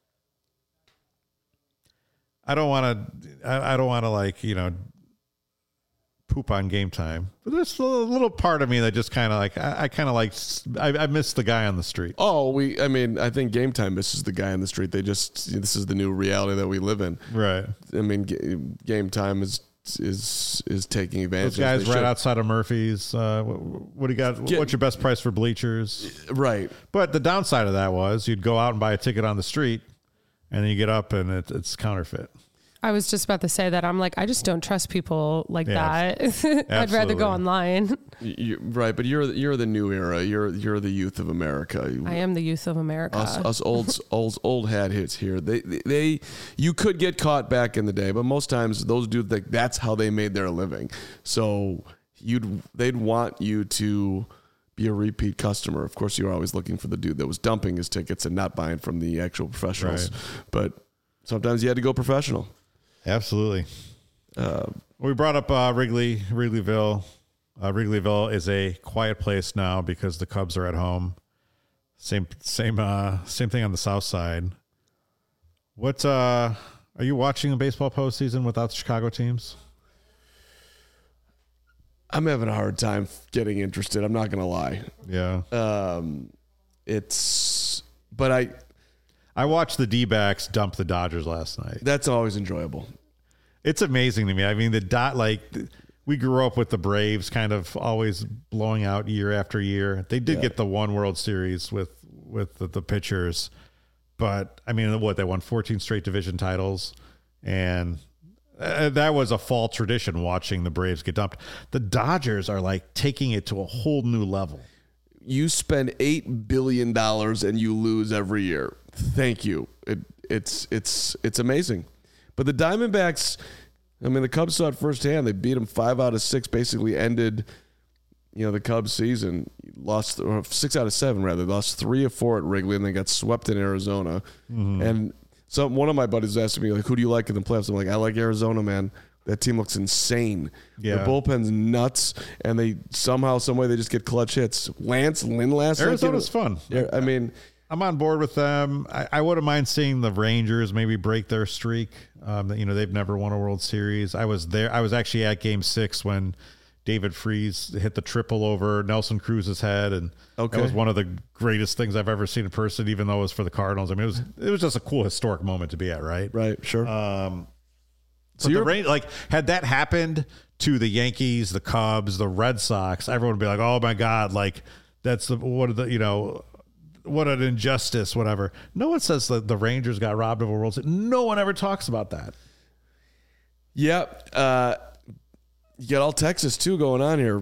don't want to like, poop on Game Time, but there's a little part of me that just kind of like, I miss the guy on the street. I think Game Time misses the guy on the street. This is the new reality that we live in. Right. I mean, Game Time is taking advantage. Those guys right outside of Murphy's. What do you got? What's your best price for bleachers? Right. But the downside of that was you'd go out and buy a ticket on the street, and then you get up and it's counterfeit. I was just about to say that. I'm like, I just don't trust people like that. Absolutely. I'd rather go online. Right, but you're the new era. You're the youth of America. I am the youth of America. Us old hat hits here. They you could get caught back in the day, but most times those dudes that's how they made their living. So they'd want you to be a repeat customer. Of course, you're always looking for the dude that was dumping his tickets and not buying from the actual professionals. Right. But sometimes you had to go professional. Absolutely. We brought up Wrigleyville. Wrigleyville is a quiet place now because the Cubs are at home. Same thing on the south side. What are you watching the baseball postseason without the Chicago teams? I'm having a hard time getting interested. I'm not going to lie. Yeah. I watched the D-backs dump the Dodgers last night. That's always enjoyable. It's amazing to me. I mean, we grew up with the Braves kind of always blowing out year after year. They did get the one World Series with the pitchers, but I mean, they won 14 straight division titles, and that was a fall tradition watching the Braves get dumped. The Dodgers are like taking it to a whole new level. You spend $8 billion and you lose every year. Thank you. It's amazing. But the Diamondbacks, I mean, the Cubs saw it firsthand. They beat them 5 out of 6, basically ended, the Cubs season. Lost 6 out of 7 rather. Lost 3 of 4 at Wrigley, and they got swept in Arizona. Mm-hmm. And so one of my buddies asked me, like, who do you like in the playoffs? I'm like, I like Arizona, man. That team looks insane. Yeah. Their bullpen's nuts, and they somehow, some way, they just get clutch hits. Lance Lynn last night. Arizona's fun. I mean, I'm on board with them. I wouldn't mind seeing the Rangers maybe break their streak. They've never won a World Series. I was there. I was actually at Game 6 when David Freese hit the triple over Nelson Cruz's head, and that was one of the greatest things I've ever seen in person, even though it was for the Cardinals. I mean, it was just a cool historic moment to be at, right? Right, sure. So had that happened to the Yankees, the Cubs, the Red Sox, everyone would be like, "Oh my God!" Like what an injustice, whatever. No one says that the Rangers got robbed of a World Series. No one ever talks about that. Yep. You got all Texas too going on here.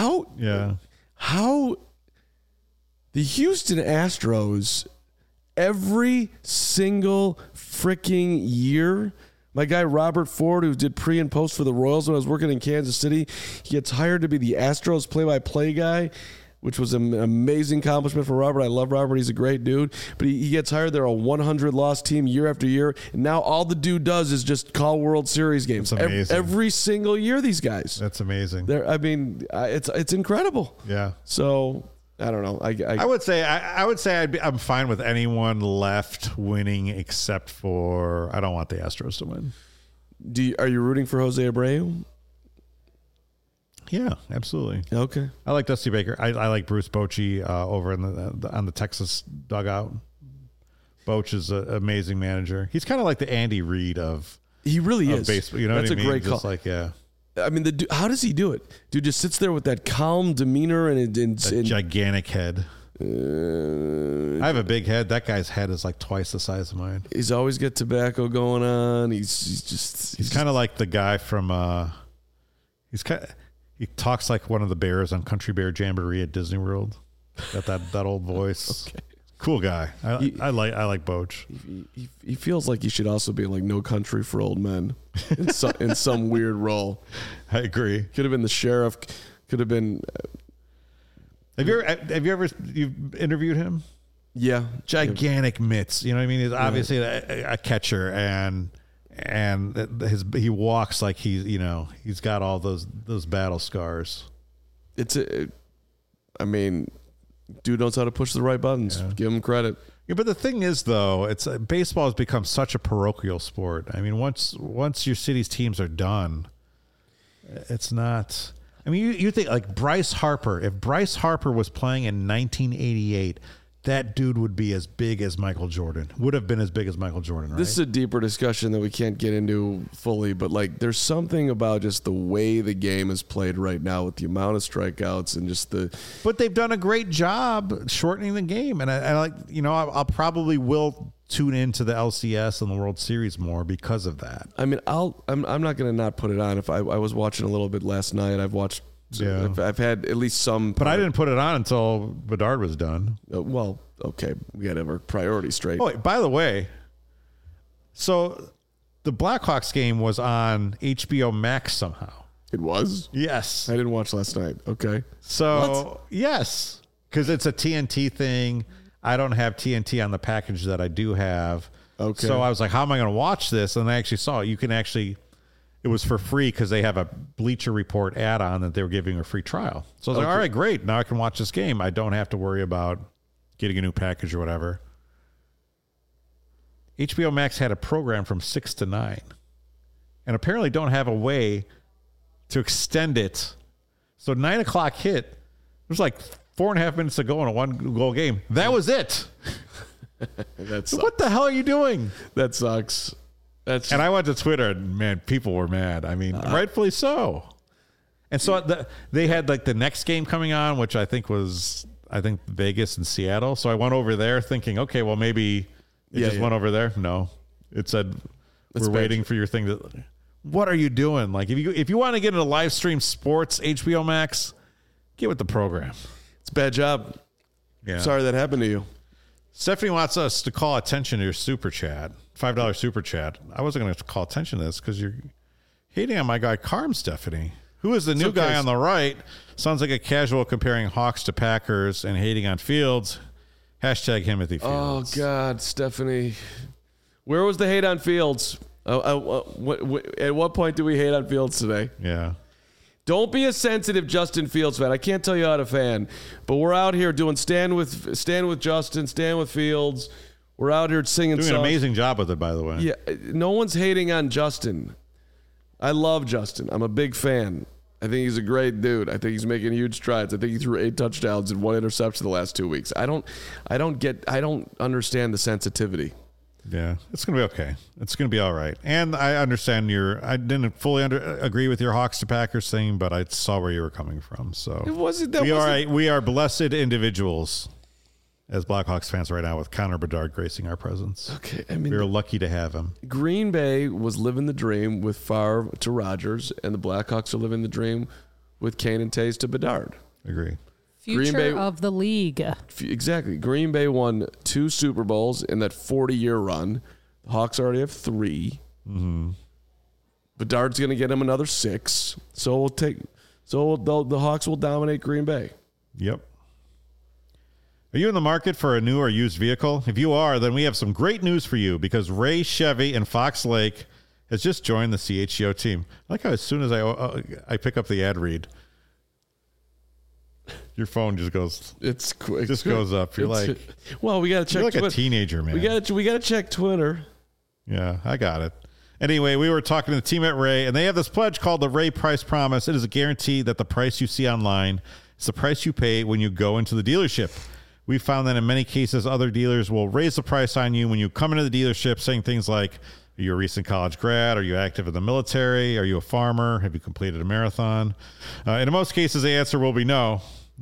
How the Houston Astros every single freaking year. My guy Robert Ford, who did pre and post for the Royals when I was working in Kansas City, he gets hired to be the Astros play-by-play guy. which was an amazing accomplishment for Robert. I love Robert. He's a great dude. But he gets hired. They're a 100-loss team year after year. And now all the dude does is just call World Series games. That's amazing. Every single year, these guys. That's amazing. It's incredible. Yeah. So, I don't know. I would say I'm fine with anyone left winning except for I don't want the Astros to win. Are you rooting for Jose Abreu? Yeah, absolutely. Okay. I like Dusty Baker. I like Bruce Bochy over in on the Texas dugout. Boch is an amazing manager. He's kind of like the Andy Reid of he really is baseball. You know That's what I mean? a great Just call. like I mean, how does he do it? Dude just sits there with that calm demeanor and gigantic head. I have a big head. That guy's head is like twice the size of mine. He's always got tobacco going on. He's kind of like the guy from. He talks like one of the bears on Country Bear Jamboree at Disney World. Got that old voice. Okay. Cool guy. I like Boch. He feels like he should also be like No Country for Old Men in some weird role. I agree. Could have been the sheriff. Could have been. Have you ever interviewed him? Yeah. Gigantic mitts. You know what I mean? He's obviously a catcher and he walks like he's got all those battle scars. Dude knows how to push the right buttons. Yeah. Give him credit. Yeah, but the thing is, though, baseball has become such a parochial sport. I mean, once your city's teams are done, it's not. I mean, you think like Bryce Harper. If Bryce Harper was playing in 1988. That dude would be as big as Michael Jordan. Would have been as big as Michael Jordan, right? This is a deeper discussion that we can't get into fully, but like there's something about just the way the game is played right now with the amount of strikeouts and just the. But they've done a great job shortening the game, and I like I'll probably will tune into the LCS and the World Series more because of that. I mean, I'm not going to not put it on. If I was watching a little bit last night, I've watched. Yeah. I've had at least some. But I didn't put it on until Bedard was done. Well, okay. We got to have our priorities straight. Oh, by the way, so the Blackhawks game was on HBO Max somehow. It was? Yes. I didn't watch last night. Okay. So, yes. Because it's a TNT thing. I don't have TNT on the package that I do have. Okay. So I was like, how am I going to watch this? And I actually saw it. You can actually... It was for free because they have a Bleacher Report add-on that they were giving a free trial. So I was like, all right, great. Now I can watch this game. I don't have to worry about getting a new package or whatever. HBO Max had a program from 6 to 9 and apparently don't have a way to extend it. So 9 o'clock hit. It was like 4.5 minutes to go in a 1-goal game. That was it. What the hell are you doing? That sucks. And I went to Twitter and, man, people were mad. I mean, rightfully so. And so they had like the next game coming on, which I think was Vegas and Seattle. So I went over there thinking, okay, well, maybe it went over there. No, it said, we're waiting for your thing to. What are you doing? Like, if you want to get into live stream sports, HBO Max, get with the program. It's a bad job. Yeah. Sorry that happened to you. Stephanie wants us to call attention to your super chat. $5 super chat. I wasn't going to call attention to this because you're hating on my guy Carm, Stephanie. Who is the new guy on the right? Sounds like a casual comparing Hawks to Packers and hating on Fields. Hashtag Himothy Fields. Oh, God, Stephanie. Where was the hate on Fields? At what point do we hate on Fields today? Yeah. Don't be a sensitive Justin Fields fan. I can't tell you how to fan, but we're out here doing stand with Justin, stand with Fields. We're out here singing songs. Doing an amazing job with it, by the way. Yeah, no one's hating on Justin. I love Justin. I'm a big fan. I think he's a great dude. I think he's making huge strides. I think he threw 8 touchdowns and 1 interception the last 2 weeks. I don't understand the sensitivity. Yeah, it's going to be okay. It's going to be all right. And I understand I didn't fully agree with your Hawks to Packers thing, but I saw where you were coming from. So we are blessed individuals as Blackhawks fans right now with Connor Bedard gracing our presence. Okay, I mean, we're lucky to have him. Green Bay was living the dream with Favre to Rodgers, and the Blackhawks are living the dream with Kane and Tays to Bedard. Agree. Future of the league. Exactly. Green Bay won 2 Super Bowls in that 40-year run. The Hawks already have 3. Mm-hmm. Bedard's going to get him another 6. So the Hawks will dominate Green Bay. Yep. Are you in the market for a new or used vehicle? If you are, then we have some great news for you because Ray Chevy in Fox Lake has just joined the CHGO team. I like how as soon as I pick up the ad read, your phone just goes. It's quick. Just goes up. You're like, well, we got to check. You're like a teenager, man. We got to check Twitter. Yeah, I got it. Anyway, we were talking to the team at Ray, and they have this pledge called the Ray Price Promise. It is a guarantee that the price you see online is the price you pay when you go into the dealership. We found that in many cases, other dealers will raise the price on you when you come into the dealership, saying things like, are you a recent college grad? Are you active in the military? Are you a farmer? Have you completed a marathon? In most cases, the answer will be no.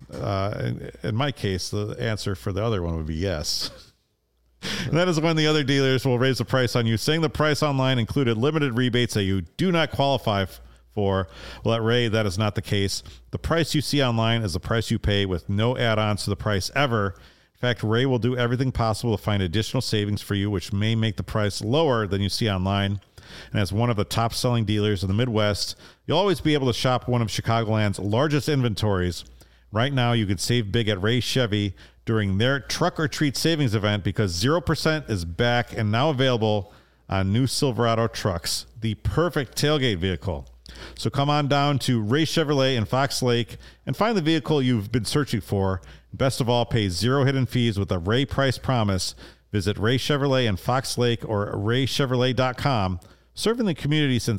In my case, the answer for the other one would be yes. And that is when the other dealers will raise the price on you, saying the price online included limited rebates that you do not qualify for. Well, at Ray, that is not the case. The price you see online is the price you pay with no add-ons to the price ever. In fact, Ray will do everything possible to find additional savings for you, which may make the price lower than you see online. And as one of the top-selling dealers in the Midwest, you'll always be able to shop one of Chicagoland's largest inventories. Right now, you can save big at Ray Chevy during their Truck or Treat Savings event because 0% is back and now available on new Silverado trucks, the perfect tailgate vehicle. So come on down to Ray Chevrolet in Fox Lake and find the vehicle you've been searching for. Best of all, pay zero hidden fees with a Ray Price Promise. Visit Ray Chevrolet in Fox Lake or raychevrolet.com. Serving the community since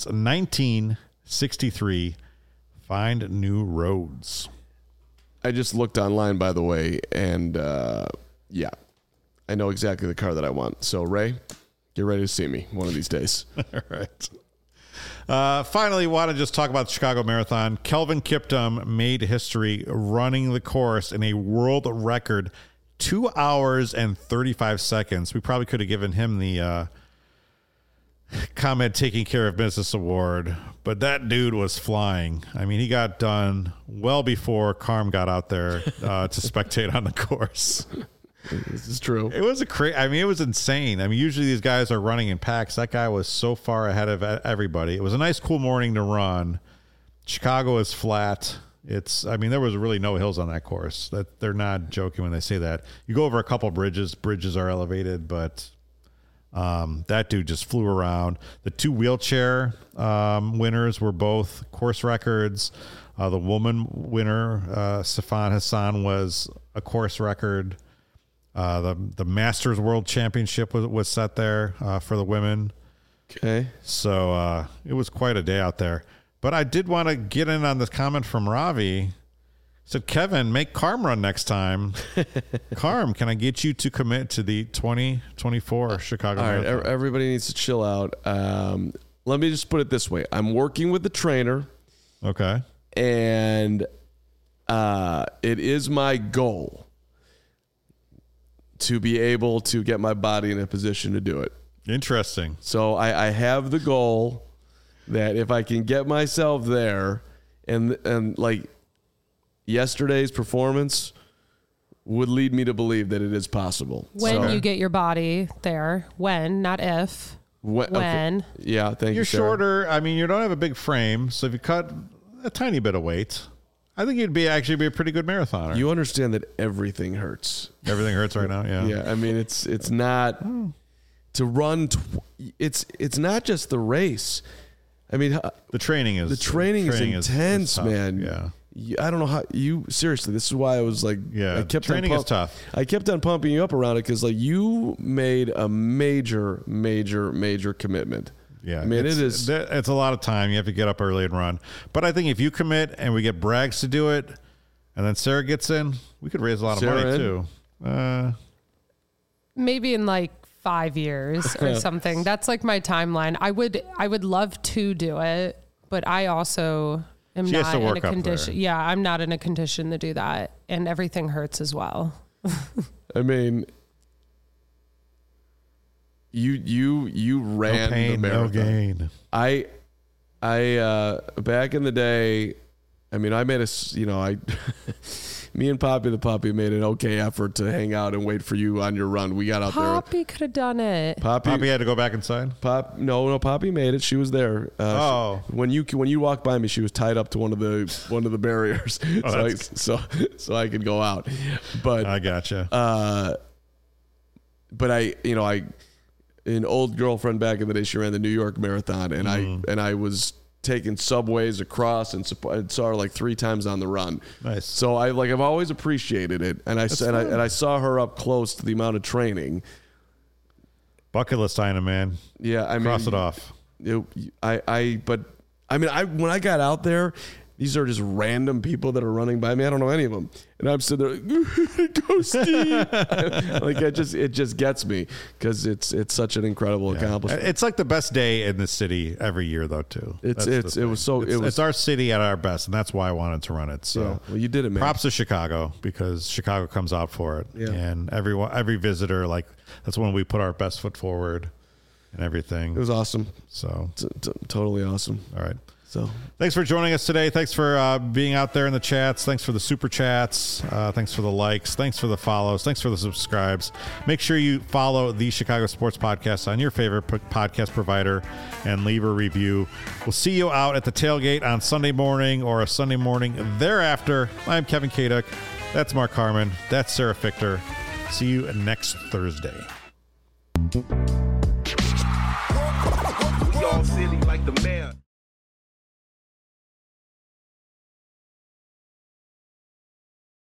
1963. Find new roads. I just looked online, by the way, and yeah, I know exactly the car that I want. So, Ray, get ready to see me one of these days. All right. Finally, want to just talk about the Chicago Marathon. Kelvin Kiptum made history running the course in a world record 2 hours and 35 seconds. We probably could have given him the ComEd Taking Care of Business Award, but that dude was flying. I mean, he got done well before Carm got out there to spectate on the course. This is true. It was it was insane. I mean, usually these guys are running in packs. That guy was so far ahead of everybody. It was a nice, cool morning to run. Chicago is flat. There was really no hills on that course. That they're not joking when they say that. You go over a couple bridges. Bridges are elevated, but that dude just flew around. The two wheelchair winners were both course records. The woman winner, Sifan Hassan, was a course record. The Masters World Championship was set there for the women. Okay. So it was quite a day out there. But I did want to get in on this comment from Ravi. He said, Kevin, make Carm run next time. Carm, can I get you to commit to the 2024 Chicago Marathon? All right, everybody needs to chill out. Let me just put it this way. I'm working with the trainer. Okay. And it is my goal to be able to get my body in a position to do it. Interesting. So I have the goal that if I can get myself there and like yesterday's performance would lead me to believe that it is possible. When you get your body there, when, not if. When. Okay. Yeah, thank you. You're shorter. I mean, you don't have a big frame. So if you cut a tiny bit of weight, I think you'd actually be a pretty good marathoner. You understand that everything hurts. Everything hurts right now. Yeah. Yeah. I mean, it's not to run. It's not just the race. I mean, the training is intense, man. Yeah. I don't know how seriously. This is why I was like, yeah, training is tough. I kept on pumping you up around it because like you made a major commitment. Yeah, I mean, it's a lot of time. You have to get up early and run. But I think if you commit and we get Braggs to do it, and then Sarah gets in, we could raise a lot of money too. Maybe in like 5 years or something. That's like my timeline. I would love to do it, but I also am not in a condition. Yeah, I'm not in a condition to do that, and everything hurts as well. I mean, you ran no pain, the marathon. No gain. I back in the day, I mean, I made me and Poppy the puppy made an okay effort to hang out and wait for you on your run. We got out there. Poppy could have done it. Poppy had to go back inside. No, Poppy made it. She was there. When you walked by me, she was tied up to one of the barriers, so I could go out. But I gotcha. But an old girlfriend back in the day, she ran the New York Marathon, and I was taking subways across and saw her like 3 times on the run. Nice. So I've always appreciated it, and I saw her up close to the amount of training. Bucket list item, man. Yeah, I mean, cross it off. When I got out there, these are just random people that are running by me. I don't know any of them, and I'm sitting there, go Steve. Like it just gets me because it's such an incredible accomplishment. It's like the best day in the city every year, though. Too. It's our city at our best, and that's why I wanted to run it. So, yeah, well, you did it, man. Props to Chicago because Chicago comes out for it, and every visitor, like that's when we put our best foot forward and everything. It was awesome. So totally awesome. All right. So thanks for joining us today. Thanks for being out there in the chats. Thanks for the super chats. Thanks for the likes. Thanks for the follows. Thanks for the subscribes. Make sure you follow the Chicago Sports Podcast on your favorite podcast provider and leave a review. We'll see you out at the tailgate on Sunday morning or a Sunday morning thereafter. I'm Kevin Kaduk. That's Mark Harmon. That's Sarah Fichter. See you next Thursday. We all silly like the man.